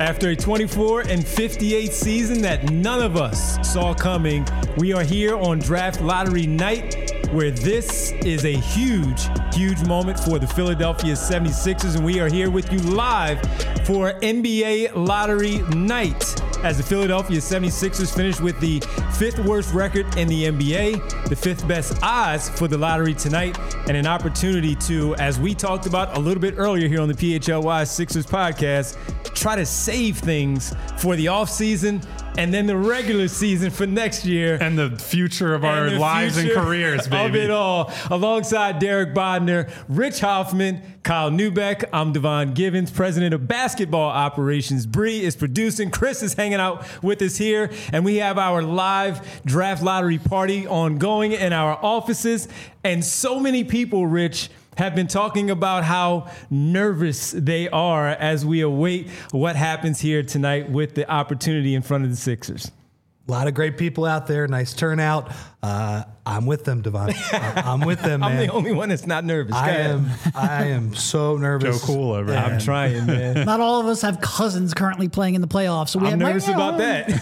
After a 24-58 season that none of us saw coming, we are here on Draft Lottery Night, where this is a huge moment for the Philadelphia 76ers, and we are here with you live for NBA Lottery Night as the Philadelphia 76ers finish with the 5th worst record in the NBA, the 5th best odds for the lottery tonight, and an opportunity to, as we talked about a little bit earlier here on the PHLY Sixers podcast, try to save things for the offseason and then the regular season for next year. And the future of our lives and careers, baby. Of it all. Alongside Derek Bodner, Rich Hoffman, Kyle Newbeck, I'm Devon Givens, president of basketball operations. Bree is producing. Chris is hanging out with us here. And we have our live draft lottery party ongoing in our offices. And so many people, Rich, have been talking about how nervous they are as we await what happens here tonight with the opportunity in front of the Sixers. A lot of great people out there. Nice turnout. I'm with them, Devon. I'm with them, man. I'm the only one that's not nervous. I am so nervous. Joe Cool over here. I'm trying, man. Not all of us have cousins currently playing in the playoffs, so I'm nervous about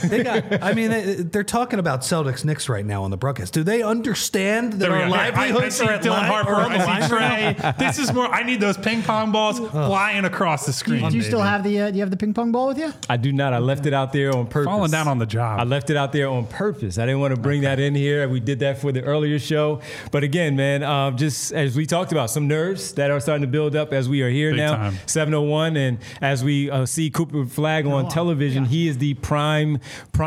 that. They're talking about Celtics Knicks right now on the broadcast. Do they understand that our livelihoods I see Dylan Harper. I see Trey. This is more. I need those ping pong balls flying across the screen. Do you still have the? Do you have the ping pong ball with you? I do not. I left it out there on purpose. Falling down on the job. I left it out there on purpose. I didn't want to bring that in here. We did that for the earlier show. But again, man, just as we talked about, some nerves that are starting to build up as we are here Big now. time. 7:01, and as we see Cooper Flagg on television, he is the prime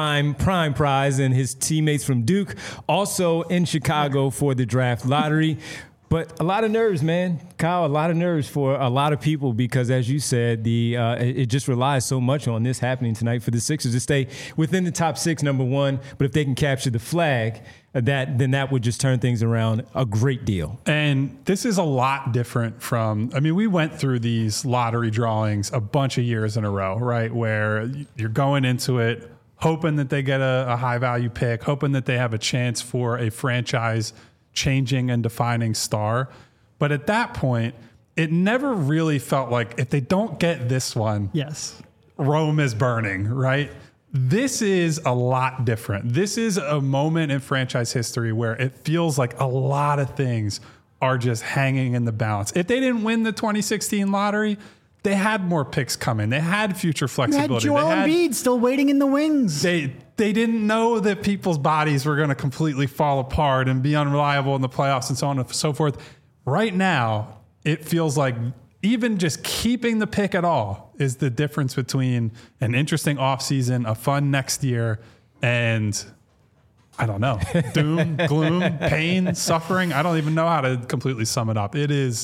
prize, and his teammates from Duke also in Chicago for the draft lottery. But a lot of nerves, man. Kyle, a lot of nerves for a lot of people because, as you said, it just relies so much on this happening tonight for the Sixers to stay within the top 6, number one. But if they can capture the flag, then that would just turn things around a great deal. And this is a lot different from, we went through these lottery drawings a bunch of years in a row, right? Where you're going into it hoping that they get a high-value pick, hoping that they have a chance for a franchise changing and defining star. But at that point, it never really felt like if they don't get this one, Yes, Rome is burning, right? This is a lot different. This is a moment in franchise history where it feels like a lot of things are just hanging in the balance. If they didn't win the 2016 lottery, they had more picks coming. They had future flexibility. You had Joel Embiid still waiting in the wings. They didn't know that people's bodies were going to completely fall apart and be unreliable in the playoffs and so on and so forth. Right now, it feels like even just keeping the pick at all is the difference between an interesting offseason, a fun next year, and I don't know, doom, gloom, pain, suffering. I don't even know how to completely sum it up. It is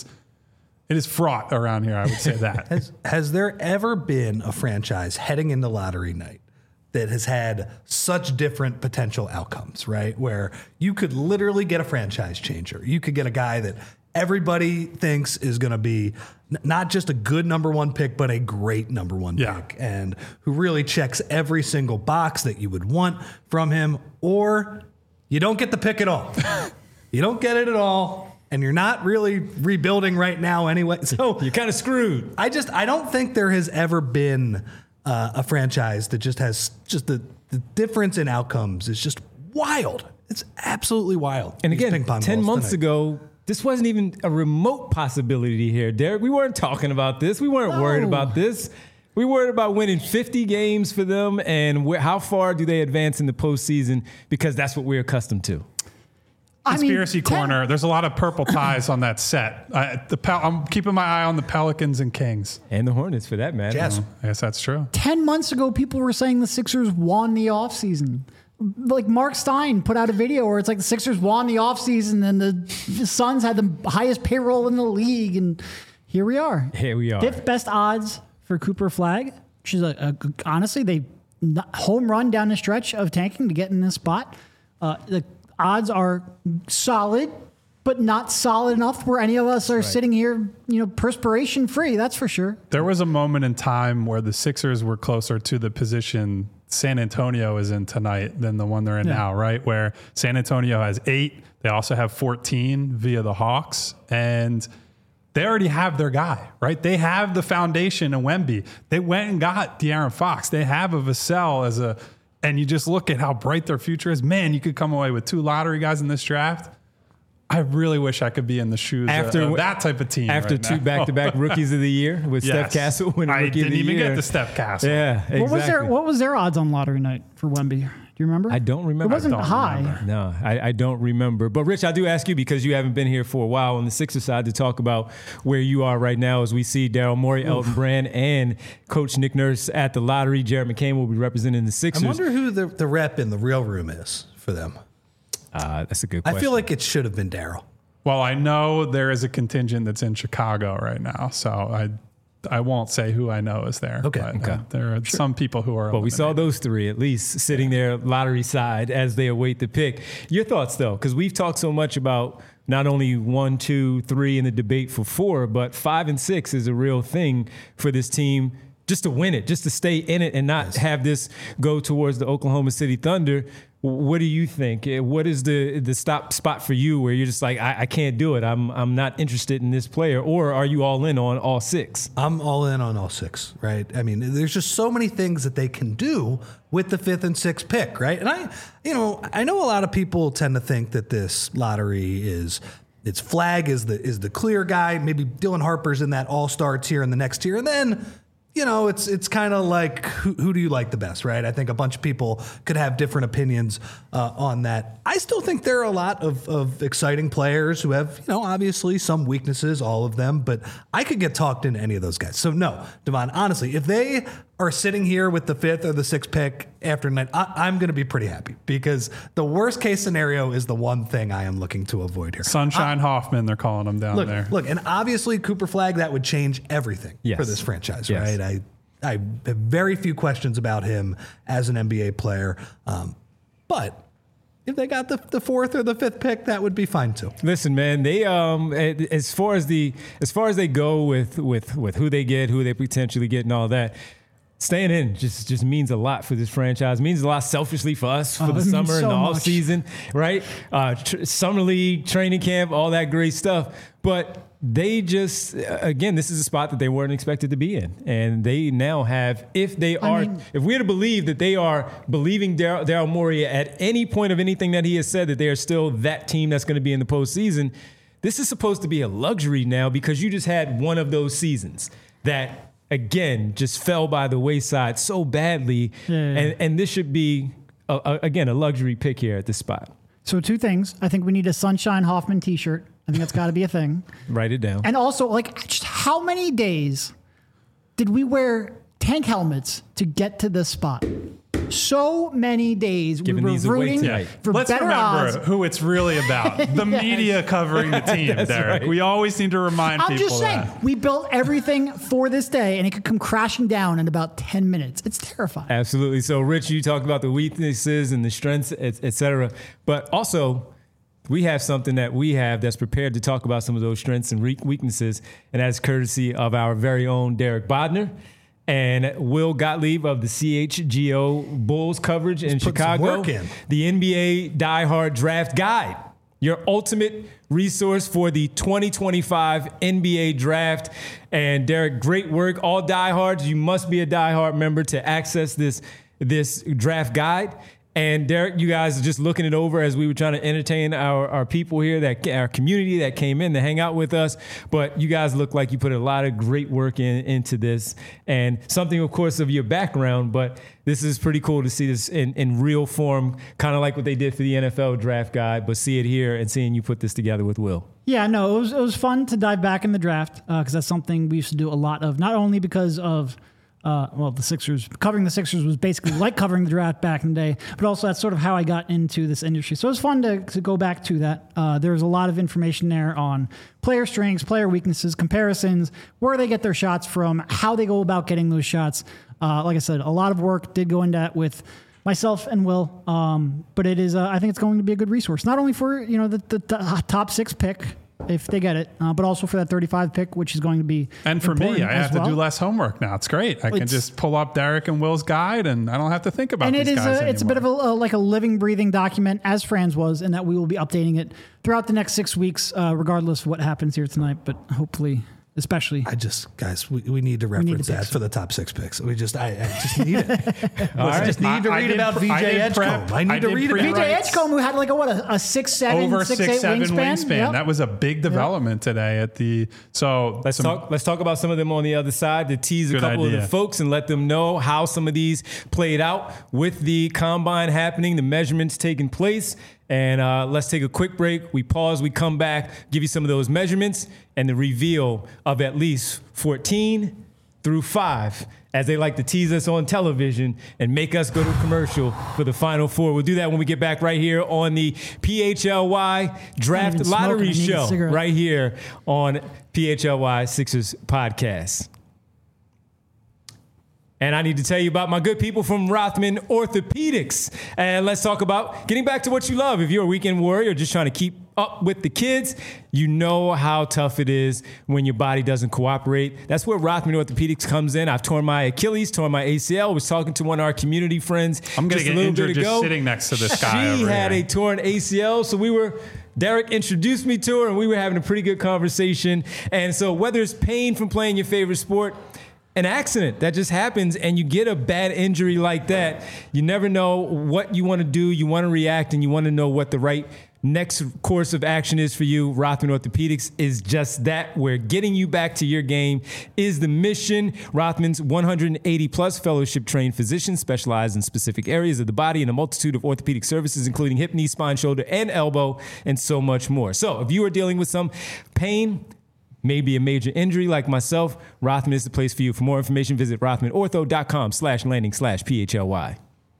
fraught around here, I would say that. Has there ever been a franchise heading into lottery night that has had such different potential outcomes, right? Where you could literally get a franchise changer. You could get a guy that everybody thinks is going to be not just a good number one pick, but a great number one pick, and who really checks every single box that you would want from him, or you don't get the pick at all. You don't get it at all. And you're not really rebuilding right now anyway. So you're kind of screwed. I don't think there has ever been a franchise that just has just the difference in outcomes is just wild. It's absolutely wild. And again, 10 months ago, this wasn't even a remote possibility here, Derek. We weren't talking about this. We weren't worried about this. We worried about winning 50 games for them and how far do they advance in the postseason because that's what we're accustomed to. Conspiracy corner. There's a lot of purple ties on that set. I'm keeping my eye on the Pelicans and Kings. And the Hornets, for that matter. Yes. I guess that's true. 10 months ago, people were saying the Sixers won the offseason. Like Mark Stein put out a video where it's like the Sixers won the offseason and the Suns had the highest payroll in the league. And here we are. Here we are. 5th best odds for Cooper Flagg. She's honestly, they home run down the stretch of tanking to get in this spot. The odds are solid, but not solid enough where any of us are sitting here, perspiration free. That's for sure. There was a moment in time where the Sixers were closer to the position San Antonio is in tonight than the one they're in now, right? Where San Antonio has 8. They also have 14 via the Hawks. And they already have their guy, right? They have the foundation in Wemby. They went and got De'Aaron Fox. They have a Vassell and you just look at how bright their future is. Man, you could come away with 2 lottery guys in this draft. I really wish I could be in the shoes of that type of team. After right 2 now. back-to-back rookies of the year with Steph Castle winning I Rookie of didn't the even Year. get to Steph Castle. Yeah, exactly. What was their odds on lottery night for Wemby? Do you remember? I don't remember. It wasn't I don't high. remember. No, I don't remember. But Rich, I do ask you because you haven't been here for a while on the Sixers side to talk about where you are right now as we see Daryl Morey, Elton Brand, and Coach Nick Nurse at the lottery. Jared McCain will be representing the Sixers. I wonder who the rep in the real room is for them. That's a good question. I feel like it should have been Daryl. Well, I know there is a contingent that's in Chicago right now, so I won't say who I know is there. Okay. But, there are some people who are. But we saw those 3 at least sitting there lottery side as they await the pick. Your thoughts though, because we've talked so much about not only 1, 2, 3 in the debate for 4, but 5 and 6 is a real thing for this team just to win it, just to stay in it and not have this go towards the Oklahoma City Thunder. What do you think? What is the stop spot for you where you're just like, I can't do it. I'm not interested in this player, or are you all in on all 6? I'm all in on all 6, right? I mean, there's just so many things that they can do with the 5th and 6th pick, right? And I know a lot of people tend to think that this lottery its flag is the clear guy. Maybe Dylan Harper's in that all-star tier in the next tier, and then it's kind of like who do you like the best, right? I think a bunch of people could have different opinions on that. I still think there are a lot of exciting players who have, obviously some weaknesses, all of them, but I could get talked into any of those guys. So no, Devon, honestly, if they are sitting here with the 5th or the 6th pick after night, I'm going to be pretty happy because the worst case scenario is the one thing I am looking to avoid here. Sunshine Hoffman, they're calling him down there. Look, and obviously Cooper Flagg, that would change everything for this franchise, right? I have very few questions about him as an NBA player, but if they got the 4th or the 5th pick, that would be fine too. Listen, man, they as far as they go with who they get, who they potentially get, and all that. Staying in just means a lot for this franchise. It means a lot selfishly for us for the summer and the off season, right? Summer league, training camp, all that great stuff. But they just, again, this is a spot that they weren't expected to be in. And they now have, if we're to believe that they are believing Daryl Morey at any point of anything that he has said, that they are still that team that's going to be in the postseason, this is supposed to be a luxury now because you just had one of those seasons that, again, just fell by the wayside so badly. Yeah. And this should be, again, a luxury pick here at this spot. So 2 things. I think we need a Sunshine Hoffman t-shirt. I think that's got to be a thing. Write it down. And also, just how many days did we wear tank helmets to get to this spot? So many days we were rooting for Let's better remember odds. who it's really about. The media covering the team, Derek. Right. We always need to remind people I'm just saying, that. we built everything for this day, and it could come crashing down in about 10 minutes. It's terrifying. Absolutely. So, Rich, you talked about the weaknesses and the strengths, et cetera. But also, we have something that we have that's prepared to talk about some of those strengths and weaknesses, and that's courtesy of our very own Derek Bodner and Will Gottlieb of the CHGO Bulls coverage in Chicago. The NBA Die Hard Draft Guide, your ultimate resource for the 2025 NBA Draft. And Derek, great work. All diehards, you must be a diehard member to access this draft guide. And Derek, you guys are just looking it over as we were trying to entertain our people here, our community that came in to hang out with us. But you guys look like you put a lot of great work into this, and something, of course, of your background. But this is pretty cool to see this in real form, kind of like what they did for the NFL draft guide, but see it here and seeing you put this together with Will. Yeah, no, it was fun to dive back in the draft because that's something we used to do a lot of, not only because of the Sixers. Covering the Sixers was basically like covering the draft back in the day, but also that's sort of how I got into this industry. So it was fun to go back to that. There's a lot of information there on player strengths, player weaknesses, comparisons, where they get their shots from, how they go about getting those shots. Like I said, a lot of work did go into that with myself and Will, but it is. I think it's going to be a good resource, not only for the top 6 pick, if they get it, but also for that 35 pick, which is going to be And for me, I have to do less homework now. It's great. I can It's- just pull up Derek and Will's guide, and I don't have to think about And these it is guys it's a bit of like a living, breathing document, as Fran's was, and that we will be updating it throughout the next 6 weeks, regardless of what happens here tonight. But hopefully, especially. Guys, we need to reference that for the top 6 picks. I just need it. I just need to read about VJ Edgecombe. I need to read about VJ Edgecombe, who had like a 6'7", over 6'8" 6'7" wingspan. Yep. That was a big development today at the. So Let's talk about some of them on the other side to tease a Good couple of idea. the folks and let them know how some of these played out with the combine happening, the measurements taking place. And let's take a quick break. We pause, we come back, give you some of those measurements and the reveal of at least 14 through 5, as they like to tease us on television and make us go to commercial for the Final Four. We'll do that when we get back right here on the PHLY Draft even Lottery smoking. I need a Show, cigarette. right here on PHLY Sixers Podcast. And I need to tell you about my good people from Rothman Orthopedics. And let's talk about getting back to what you love. If you're a weekend warrior just trying to keep up with the kids, you know how tough it is when your body doesn't cooperate. That's where Rothman Orthopedics comes in. I've torn my Achilles, torn my ACL. Was talking to one of our community friends. I'm going to just a get little injured bit just ago. sitting next to this guy. She over had here. a torn ACL, so Derek introduced me to her, and we were having a pretty good conversation. And so whether it's pain from playing your favorite sport, an accident that just happens, and you get a bad injury like that, you never know what you want to do. You want to react, and you want to know what the right next course of action is for you. Rothman Orthopedics is just that, where getting you back to your game is the mission. Rothman's 180-plus fellowship-trained physicians specialize in specific areas of the body and a multitude of orthopedic services, including hip, knee, spine, shoulder, and elbow, and so much more. So if you are dealing with some pain, maybe a major injury like myself, Rothman is the place for you. For more information, visit rothmanortho.com/landing/PHLY.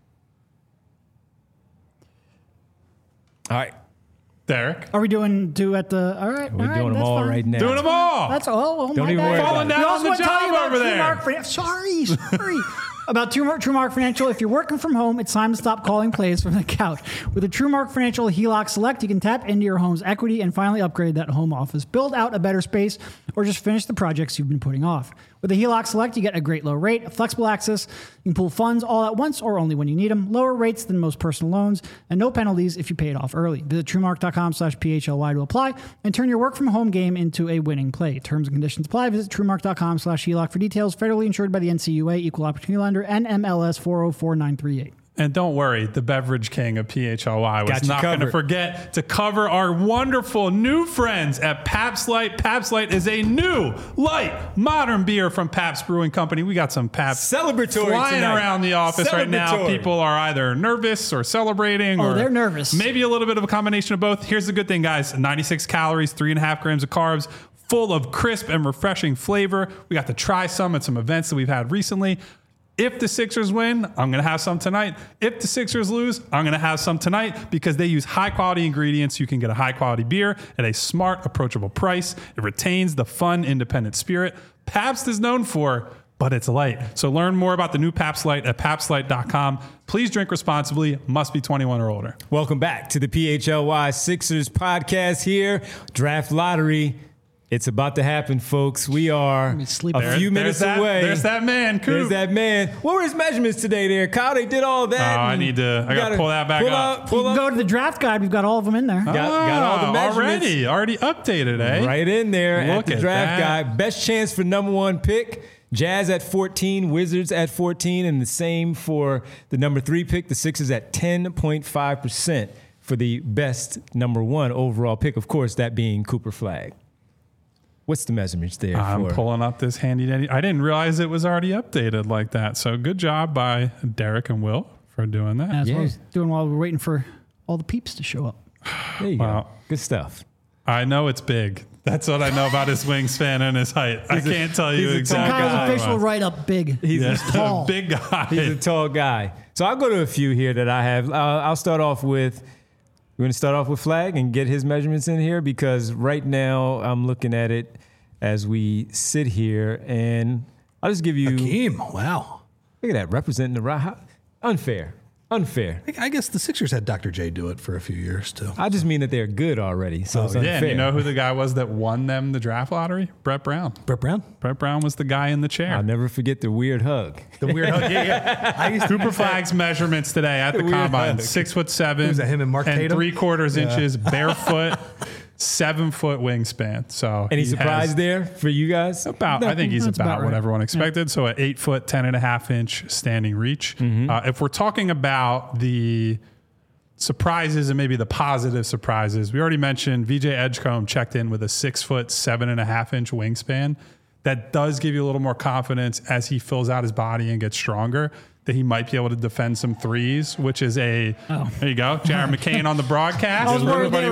All right. Derek. Are we doing at the? All right, We're doing them all right now. Doing them all. That's all. Don't my even bad. worry about Falling it. down We on also the want to tell you job about over there. Sorry. About TrueMark Financial. If you're working from home, it's time to stop calling plays from the couch. With a TrueMark Financial HELOC Select, you can tap into your home's equity and finally upgrade that home office, build out a better space, or just finish the projects you've been putting off. With the HELOC Select, you get a great low rate, flexible access. You can pull funds all at once or only when you need them, lower rates than most personal loans, and no penalties if you pay it off early. Visit TrueMark.com/PHLY to apply and turn your work from home game into a winning play. Terms and conditions apply. Visit TrueMark.com/HELOC for details. Federally insured by the NCUA, Equal Opportunity Lender, and MLS 404938. And don't worry, the beverage king of PHLY was Got you not going to covered. forget to cover our wonderful new friends at Pabst Light. Pabst Light is a new, light, modern beer from Pabst Brewing Company. We got some Pabst Celebratory flying tonight. around the office right now. Celebratory. People are either nervous or celebrating. Oh, or they're nervous. Maybe a little bit of a combination of both. Here's the good thing, guys. 96 calories, 3.5 grams of carbs, full of crisp and refreshing flavor. We got to try some at some events that we've had recently. If the Sixers win, I'm going to have some tonight. If the Sixers lose, I'm going to have some tonight because they use high-quality ingredients. You can get a high-quality beer at a smart, approachable price. It retains the fun, independent spirit Pabst is known for, but it's light. So learn more about the new Pabst Light at PabstLight.com. Please drink responsibly. Must be 21 or older. Welcome back to the PHLY Sixers podcast here. Draft lottery. It's about to happen, folks. We are me sleep. a few minutes away. There's that man, Coop. There's that man. What were his measurements today there, Kyle? They did all that. Oh, I and gotta pull that back up. You can go to the draft guide. We've got all of them in there. Got all the measurements. Already updated, eh? Right in there Look at the at draft that. guide. Best chance for number one pick. Jazz at 14, Wizards at 14, and the same for the number 3 pick. The Sixers at 10.5% for the best number 1 overall pick. Of course, that being Cooper Flagg. What's the measurements there? I'm pulling up this handy dandy. I didn't realize it was already updated like that. So good job by Derek and Will for doing that. That's what I Yeah. was doing while we were waiting for all the peeps to show up. There you Wow. go. Good stuff. I know it's big. That's what I know about his wingspan and his height. I can't tell you he's a exactly. tall Kyle's guy. official write-up big. He's tall. Big guy. He's a tall guy. So I'll go to a few here that I have. I'll start off with, we're going to start off with Flagg and get his measurements in here because right now I'm looking at it as we sit here and I'll just give you, Hakeem, wow. look at that, representing the right. Unfair. Unfair. I guess the Sixers had Dr. J do it for a few years too. I just mean that they're good already, so it's Yeah, unfair. and you know who the guy was that won them the draft lottery? Brett Brown. Brett Brown, Brett Brown was the guy in the chair. I'll never forget the weird hug. the weird hug. Yeah. I used to Cooper Flag's measurements today at the Weird combine: hug. 6'7". Was that him and Mark Tatum? 3/4 inches, barefoot, 7-foot wingspan. So Any he surprise has there for you guys? I think he's That's about about what right. everyone expected. So at 8 foot, 10.5 inch standing reach. If we're talking about the surprises and maybe the positive surprises, we already mentioned VJ Edgecombe checked in with a 6 foot, 7.5 inch wingspan. That does give you a little more confidence as he fills out his body and gets stronger, that he might be able to defend some threes, which is there you go, Jared McCain on the broadcast. I was worried they were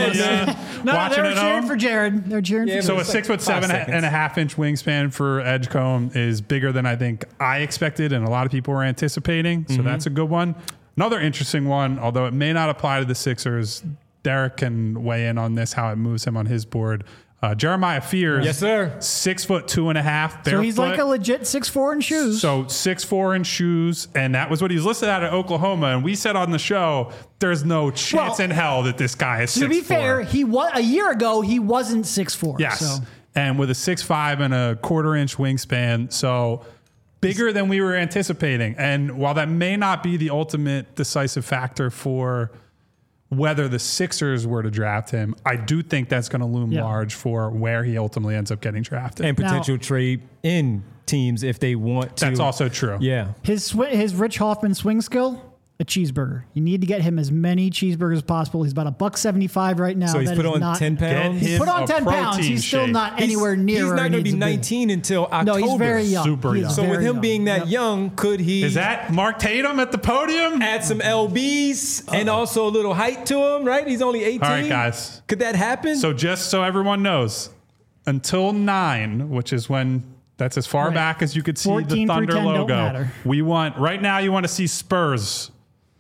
No, watching they were at cheering home. for Jared. They're cheering Yeah, for So but a it's like 6 foot 5 7.5 inch wingspan for Edgecombe is bigger than I think I expected and a lot of people were anticipating. So that's a good one. Another interesting one, although it may not apply to the Sixers, Derek can weigh in on this, how it moves him on his board. Jeremiah Fears. Yes, sir. 6 foot 2.5 barefoot. So he's like a legit 6'4" in shoes. So 6'4" in shoes, and that was what he was listed at Oklahoma. And we said on the show, there's no chance Well, in hell that this guy is 6'4". to be fair, he was a year ago. He wasn't 6'4". Yes. So. And with a 6'5" and a 1/4 inch wingspan. So bigger than we were anticipating. And while that may not be the ultimate decisive factor for whether the Sixers were to draft him, I do think that's going to loom large for where he ultimately ends up getting drafted. And potential trade in teams if they want to. That's also true. Yeah. His Rich Hoffman swing skill, a cheeseburger. You need to get him as many cheeseburgers as possible. He's about $1.75 right now. So he's That put is on not- 10 pounds. Him Put on a 10 pounds. protein He's still shake. not anywhere near He's where not he going to needs be to 19 until October. No, he's very young. Super He's young. So with very him young. being that Yep. young, could he Is that Mark Tatum at the podium? add some LBs and also a little height to him, right? He's only 18. All right, guys. Could that happen? So just so everyone knows, until 9, which is when that's as far Right. back as you could see 14 the through Thunder 10 don't logo. matter. We want right now. You want to see Spurs.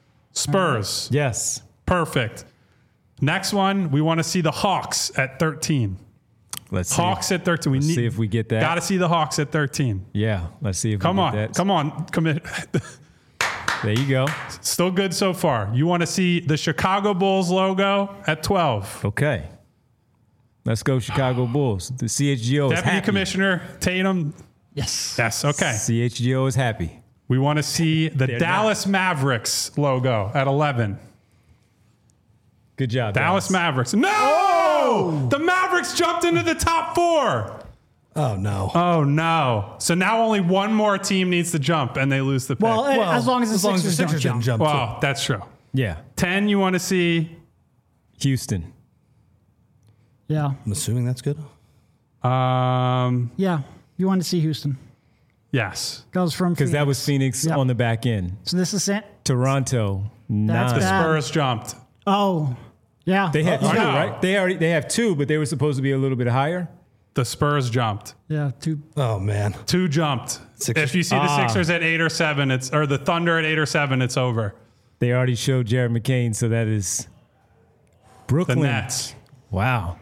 yes. Perfect. Next one, we want to see the Hawks at 13. Let's see. Hawks at 13. We Let's see if we get that. Got to see the Hawks at 13. Yeah. Let's see if Come we on, get that. come on, commit. There you go. Still good so far. You want to see the Chicago Bulls logo at 12. Okay. Let's go Chicago Bulls. The CHGO is Deputy happy. Commissioner Tatum. Yes. Yes. Okay. CHGO is happy. We want to see the They're Dallas Mavericks logo at 11. Good job, Dallas Mavericks. No! The Mavericks jumped into the top 4. Oh no. Oh, no. So now only one more team needs to jump and they lose the pick. Well, as long as the Sixers don't didn't jump. jump. Wow, that's true. Yeah. 10, you want to see. Houston. Yeah. I'm assuming that's good. Yeah. You want to see Houston. Yes. Goes from Because that was Phoenix Yep. on the back end. So this is it. Toronto, 9. bad. Spurs jumped. Oh. Yeah. They had two, Oh, no. right? They have 2, but they were supposed to be a little bit higher. The Spurs jumped. Yeah. Two. Oh man. 2 jumped. Sixers. If you see the Sixers at 8 or 7, or the Thunder at 8 or 7, it's over. They already showed Jared McCain, so that is The Brooklyn. Nets. Wow.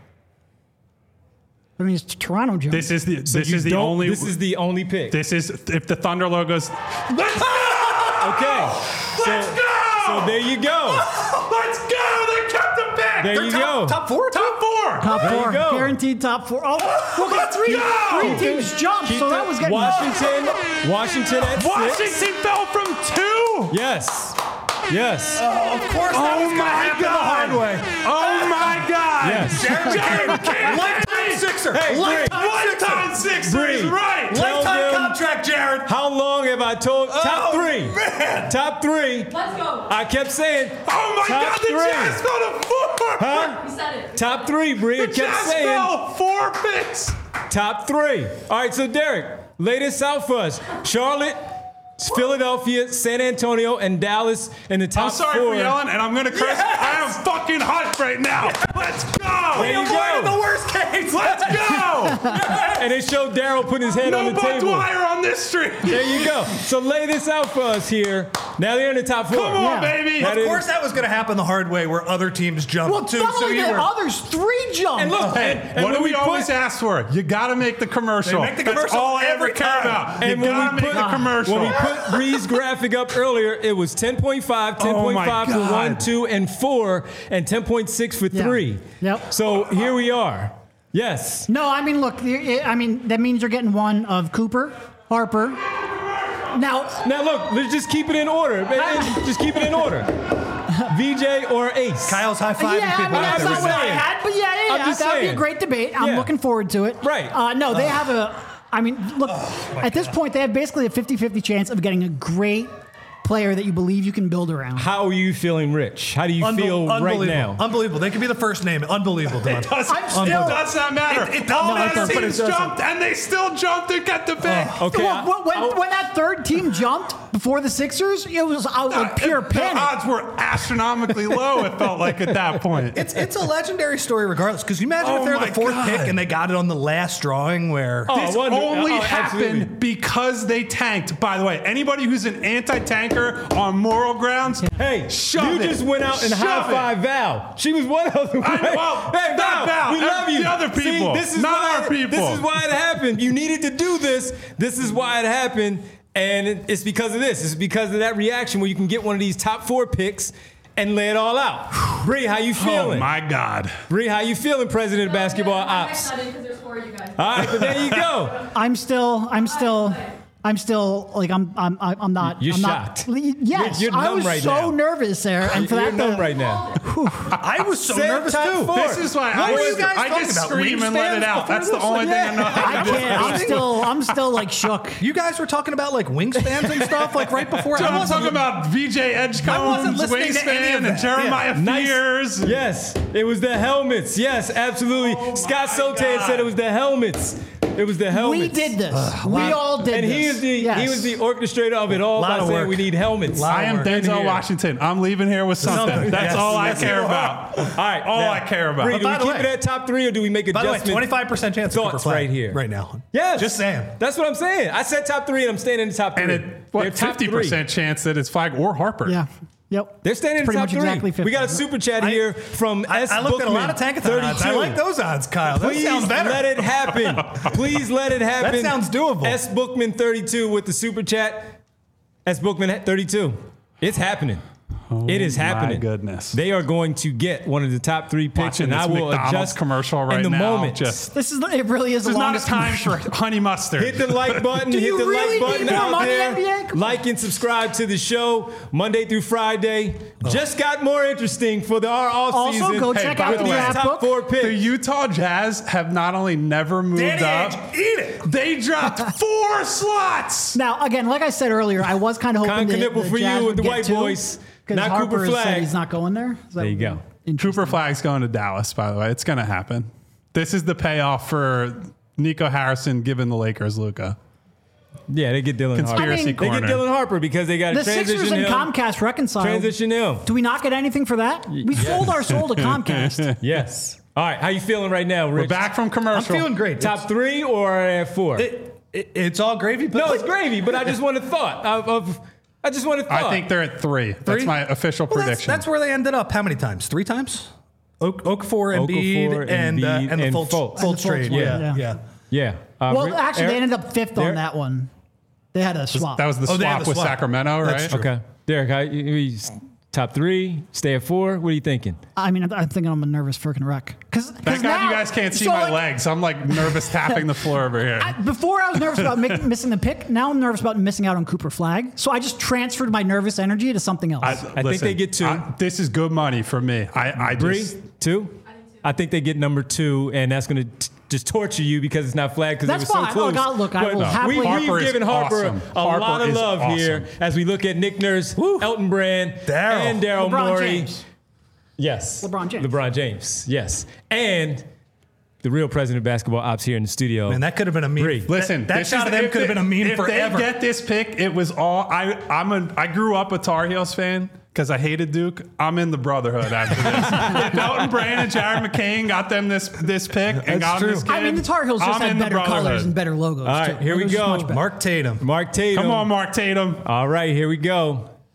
I mean, it's Toronto jump. This is the So this you is the don't- only This is the only pick. this is if the Thunder logos. Let's go! Okay. Let's go! So there you go. Let's go! They kept the pick. There you go. Top 4. Top 4. top There you 4. go. Guaranteed top 4. Oh, look at Let's go! three teams jumped. Keep So that the- was getting Washington at 6. Washington fell from 2. Yes. Yes. Of course, Oh my God! Oh my God! Yes. Jared McCain, Lifetime Sixer. Hey, lifetime Sixer is Bree. right. Tell them- contract, Jared. How long have I told? Top 3. Man. Top 3. Let's go. I kept saying. Oh my Top God! The 3. Jazz fell to 4. Huh? You said it. Top 3, Bree. I The kept Jazz saying. fell 4 picks. Top 3. All right, so Derek, lay this out for us. Charlotte, Philadelphia, San Antonio, and Dallas in the top I'm sorry 4. for yelling, and I'm gonna curse. I am fucking hyped right now. Let's go. There you go. The worst case. Let's go. And it showed Daryl putting his head No on the Buck table. Dwyer on this street. There you go. So lay this out for us here. Now they're in the top 4. Come on, Yeah. baby. Of course, that was going to happen the hard way where other teams jumped Well, too. not So only you that, were. others 3 jumped. And look, Hey, and what when do we put- always ask for? You got to make the commercial. They make the That's commercial all I ever every care time. about. And You when got to we make put the commercial. when we put Bree's graphic up earlier, it was 10.5, 10.5 for God. 1, 2, and 4, and 10.6 for 3. Yep. So here we are. Yes. No, I mean, look, I mean, that means you're getting one of Cooper, Harper. Now, Now look, let's just keep it in order. Just keep it in order. VJ or Ace. Kyle's high fiving yeah, I people. mean, that's I'm not just what I saying. had, but yeah, I'm just that would be a saying. great debate. I'm Yeah. looking forward to it. Right. No, they have I mean, look, at this point, they have basically a 50-50 chance of getting a great player that you believe you can build around. How are you feeling, Rich? How do you feel right Unbelievable. now? Unbelievable. They could be the first name. Unbelievable, Don. It does not matter. It All doesn't. the teams jumped, and they still jumped and got the pick. Okay. Look, when that third team jumped before the Sixers, it was like pure The panic. odds were astronomically low, it felt like at that point. It's a legendary story regardless. Because you imagine Oh if they're my the 4th God. pick and they got it on the last drawing where. This wonder- only absolutely. happened because they tanked. By the way, anybody who's an anti-tanker on moral grounds, Hey, shove you it. just went out and Shove high-fived Val. She was one of them. well, hey, not Val. we love you. The other people. See, this is Not why, our people. This is why it happened. You needed to do this. This is why it happened. And it's because of this. It's because of that reaction where you can get one of these top 4 picks and lay it all out. Bree, how you Oh feeling? my God. Bree, how you feeling, President of Basketball Ops? Because there's 4 of you guys. All right, but there you go. I'm still like I'm not. You're I'm shocked. Not, yes, You're I numb was right so now. nervous there, and for You're that numb to, right now. I was so Say nervous top too. 4. This is why What were you guys I talking just about? scream and let it Wingspans out. before That's the this? only thing I know how I to do. can't. I'm still like shook. You guys were talking about like wingspans and stuff like right before. I'm talking about VJ Edgecombe's listening to any wingspan of and that. Jeremiah Nice. Fears. Yes, it was the helmets. Yes, absolutely. Scott Sote had said it was the helmets. It was the helmets. We did this. We all did And this. he was the orchestrator of it all Lot by of saying work. we need helmets. I am work. Denzel here. Washington. I'm leaving here with something. Something. That's Yes. all I Yes, care you are. about. All right, All now, I care about. Bree, But do by we the keep way- it at top 3 or do we make By the way, adjustments? 25% chance of Cooper Thoughts Flag right here. right now. Yes, Just saying. That's what I'm saying. I said top 3 and I'm staying in the top 3. And it, They're what, top 50% chance that it's Flag or Harper. Yeah. Yep. They're standing in the Pretty top much 3. exactly 50. We got a super chat here from S. I looked at a lot Bookman, of Tankathon odds. I 32. like those odds, Kyle. That Please sounds better. let it happen. Please let it happen. That sounds doable. S. Bookman 32 with the super chat. S. Bookman 32. It's happening. It is happening. My goodness. They are going to get one of the top 3 picks, Watching and I this will McDonald's adjust commercial right in the now. moment. Just It really is this the is not a longest time commercial. for honey mustard. Hit the like button. Do Hit you the really like button need more out money, there. NBA? Come on. Like and subscribe to the show Monday through Friday. Just got more interesting for our off Also, season. go Hey, check by out the the way, draft top book. 4 The picks. Utah Jazz have not only never moved Danny up, Ainge, eat it. they dropped 4 slots. Now, again, like I said earlier, I was kind of hoping Con that Knipple the for you Jazz with would the get white 2, boys, 'cause not Harper Cooper has Flag. said he's not going there. Is that There you go. Cooper Flag's going to Dallas, by the way. It's going to happen. This is the payoff for Nico Harrison giving the Lakers Luka. Yeah, they get Dylan Harper. Conspiracy I mean, They corner. get Dylan Harper because they got The to transition Sixers and him. Comcast reconciled. Transition him. Do we not get anything for that? We sold our soul to Comcast. Yes. All right. How you feeling right now, Rich? We're back from I'm commercial. feeling great. Top 3 or at 4? It's all gravy. But No, it's gravy, but I just want a thought I just want a thought. I think they're at 3. That's my official prediction. That's where they ended up. How many times? 3 times? Okafor, Embiid, and Embiid, the and Fultz Fultz. And the trade. Fultz one, Yeah, yeah. yeah. Yeah. Well, actually, they ended up 5th Derek? on that one. They had a swap. that was the Oh, they had swap the with swap. Sacramento, right? That's true. Okay. Derek, top 3, stay at 4. What are you thinking? I mean, I'm thinking I'm a nervous freaking wreck. Thank God you guys can't see my legs. I'm like nervous tapping the floor over here. Before I was nervous about missing the pick. Now I'm nervous about missing out on Cooper Flag. So I just transferred my nervous energy to something else. I think they get 2. This is good money for me. I Bree, just 2? I think they get number 2, and that's going to just torture you because it's not flagged because it That's was so fine. close. Look, I But will happily- we've Harper is given Harper awesome. a Harper lot of is love here awesome. as we look at Nick Nurse, Elton Brand, Daryl. and Daryl LeBron Morey. James. Yes. LeBron James. LeBron James, yes. And the real president of basketball ops here in the studio. Man, that could have been a meme. Bree. listen. that this shot is- of them if could have they- been a meme if forever. they get this pick, it was all. I grew up a Tar Heels fan because I hated Duke. I'm in the brotherhood after this. If Elton Brand and Jared McCain got them this pick and got them this kid, I mean, the Tar Heels just I'm had in the better colors brotherhood. and better logos. All right, too. here we It was go. much better. Mark Tatum. Mark Tatum. Come on, Mark Tatum. All right, here we go.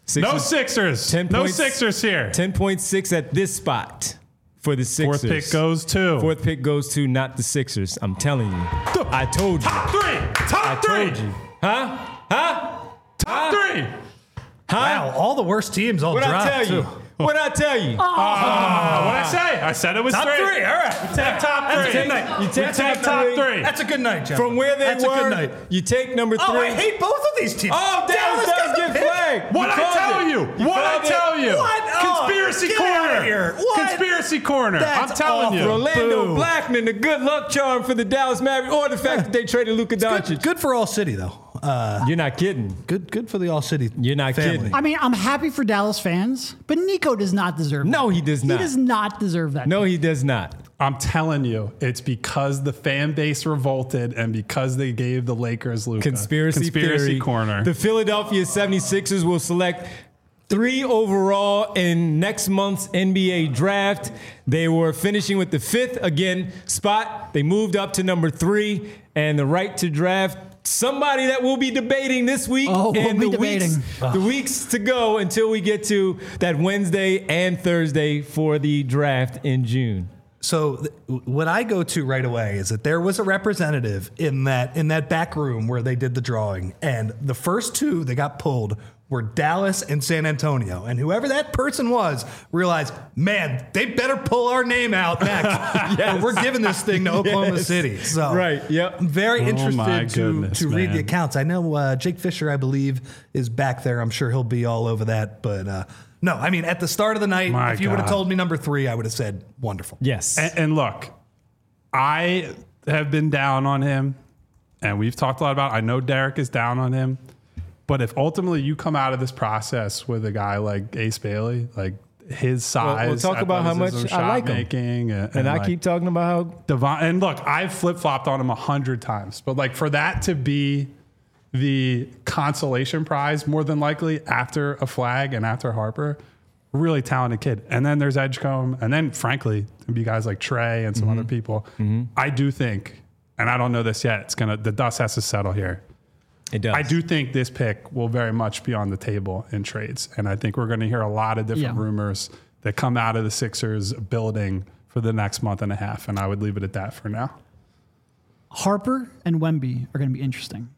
No Sixers. 10 No points. Sixers here. 10.6 at this spot for the Sixers. Fourth pick goes to. Fourth pick goes to not the Sixers. I'm telling you. I told you. Top three. Top three. Told you. Huh? Top three. Wow, all the worst teams all What'd dropped. I tell you? too. What'd I tell you? What'd I say? I said it was Top three. three. All right. Take top That's a three. good night. You We take take top three. That's a good night, Jeff. From where they That's were, a good night. you take number 3. Oh, I hate both of these teams. Oh, Dallas does get flagged. What'd You I called tell it. you? What'd I called it. tell you? What? Oh, Conspiracy get corner. outta here. What? Conspiracy corner. That's I'm telling you. awful. Orlando Boo. Blackman, the good luck charm for the Dallas Mavericks, or the fact that they traded Luka Doncic. Good for All City, though. You're not kidding. Good for the All City. You're not family. kidding. I mean, I'm happy for Dallas fans, but Nico does not deserve that. No, he does not. He does not deserve that. No, he does not. I'm telling you, it's because the fan base revolted and because they gave the Lakers Luka. Conspiracy theory. corner. The Philadelphia 76ers will select 3 overall in next month's NBA draft. They were finishing with the 5th again spot. They moved up to number 3 and the right to draft somebody that we'll be debating this week. Oh, we'll and be the debating. weeks to go until we get to that Wednesday and Thursday for the draft in June. So what I go to right away is that there was a representative in that back room where they did the drawing, and the first 2 that got pulled were Dallas and San Antonio. And whoever that person was realized, man, they better pull our name out next. Or we're giving this thing to Oklahoma Yes. City. So Right, yep. I'm very my interested goodness, to read the man. accounts. I know Jake Fisher, I believe, is back there. I'm sure he'll be all over that. But no, I mean, at the start of the night, My if you would have God. told me number 3, I would have said wonderful. Yes. And look, I have been down on him, and we've talked a lot about it. I know Derek is down on him. But if ultimately you come out of this process with a guy like Ace Bailey, like his size, we'll talk about how much athleticism, I like him. shot-making, and I like keep talking about how Devon. And look, I've flip-flopped on him 100 times. But like for that to be the consolation prize, more than likely after a Flag and after Harper, really talented kid. And then there's Edgecombe. And then frankly, there'd be guys like Trey and some other people. I do think, and I don't know this yet, the dust has to settle here. it does. I do think this pick will very much be on the table in trades. And I think we're going to hear a lot of different Yeah. rumors that come out of the Sixers building for the next month and a half. And I would leave it at that for now. Harper and Wemby are going to be interesting.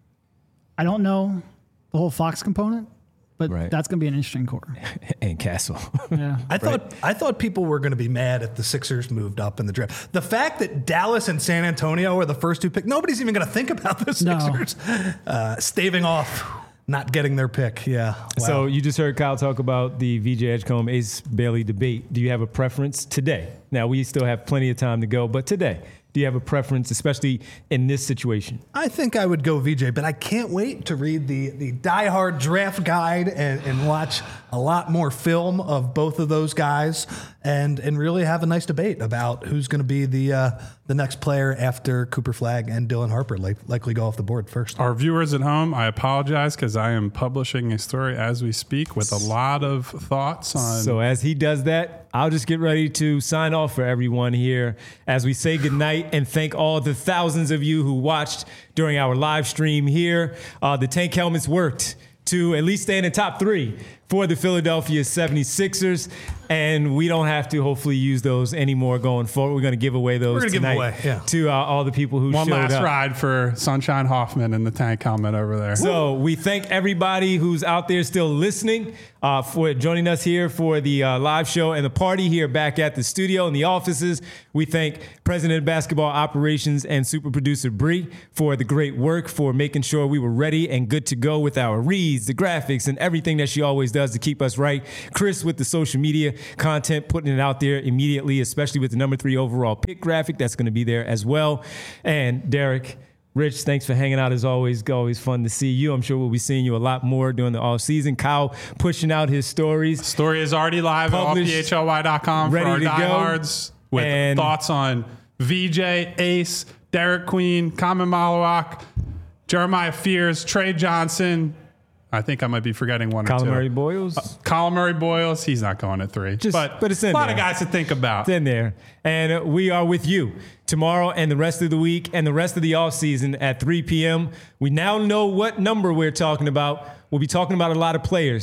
I don't know the whole Fox component, but Right. that's going to be an interesting core. and Castle. Yeah. I thought people were going to be mad if the Sixers moved up in the draft. The fact that Dallas and San Antonio are the first 2 picks, nobody's even going to think about the No. Sixers staving off not getting their pick. Yeah. Wow. So you just heard Kyle talk about the VJ Edgecombe Ace Bailey debate. Do you have a preference today? Now we still have plenty of time to go, but today, do you have a preference, especially in this situation? I think I would go VJ, but I can't wait to read the diehard draft guide and watch a lot more film of both of those guys and really have a nice debate about who's going to be the next player after Cooper Flag and Dylan Harper likely go off the board first. Our viewers at home, I apologize because I am publishing a story as we speak with a lot of thoughts on. So as he does that, I'll just get ready to sign off for everyone here as we say goodnight and thank all the thousands of you who watched during our live stream here. The tank helmets worked to at least stay in the top 3 for the Philadelphia 76ers. And we don't have to hopefully use those anymore going forward. We're going to give away those We're gonna give tonight away, yeah. to all the people who one showed last up. ride for Sunshine Hoffman and the tank helmet over there. So we thank everybody who's out there still listening for joining us here for the live show and the party here back at the studio and the offices. We thank President of Basketball Operations and super producer Bree for the great work, for making sure we were ready and good to go with our reads, the graphics, and everything that she always does to keep us right. Chris with the social media content, putting it out there immediately, especially with the number 3 overall pick graphic. That's going to be there as well. And Derek, Rich, thanks for hanging out as always. Always fun to see you. I'm sure we'll be seeing you a lot more during the off season. Kyle pushing out his stories. Story is already live Published, at allphly.com for ready our to go. diehards with And- thoughts on VJ, Ace, Derek Queen, Kamen Malawak, Jeremiah Fears, Trey Johnson. I think I might be forgetting one or two. Calamari Boyles. Colin Murray Boyles, he's not going at 3. But it's in a lot there. of guys to think about. It's in there. And we are with you tomorrow and the rest of the week and the rest of the offseason at 3 p.m. We now know what number we're talking about. We'll be talking about a lot of players.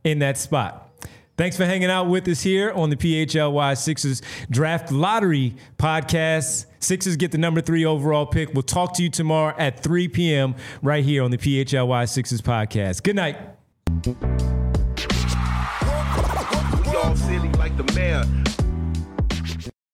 in that spot. Thanks for hanging out with us here on the PHLY Sixers Draft Lottery podcast. Sixers get the number 3 overall pick. We'll talk to you tomorrow at 3 p.m. right here on the PHLY Sixers podcast. Good night. We all silly like the mayor.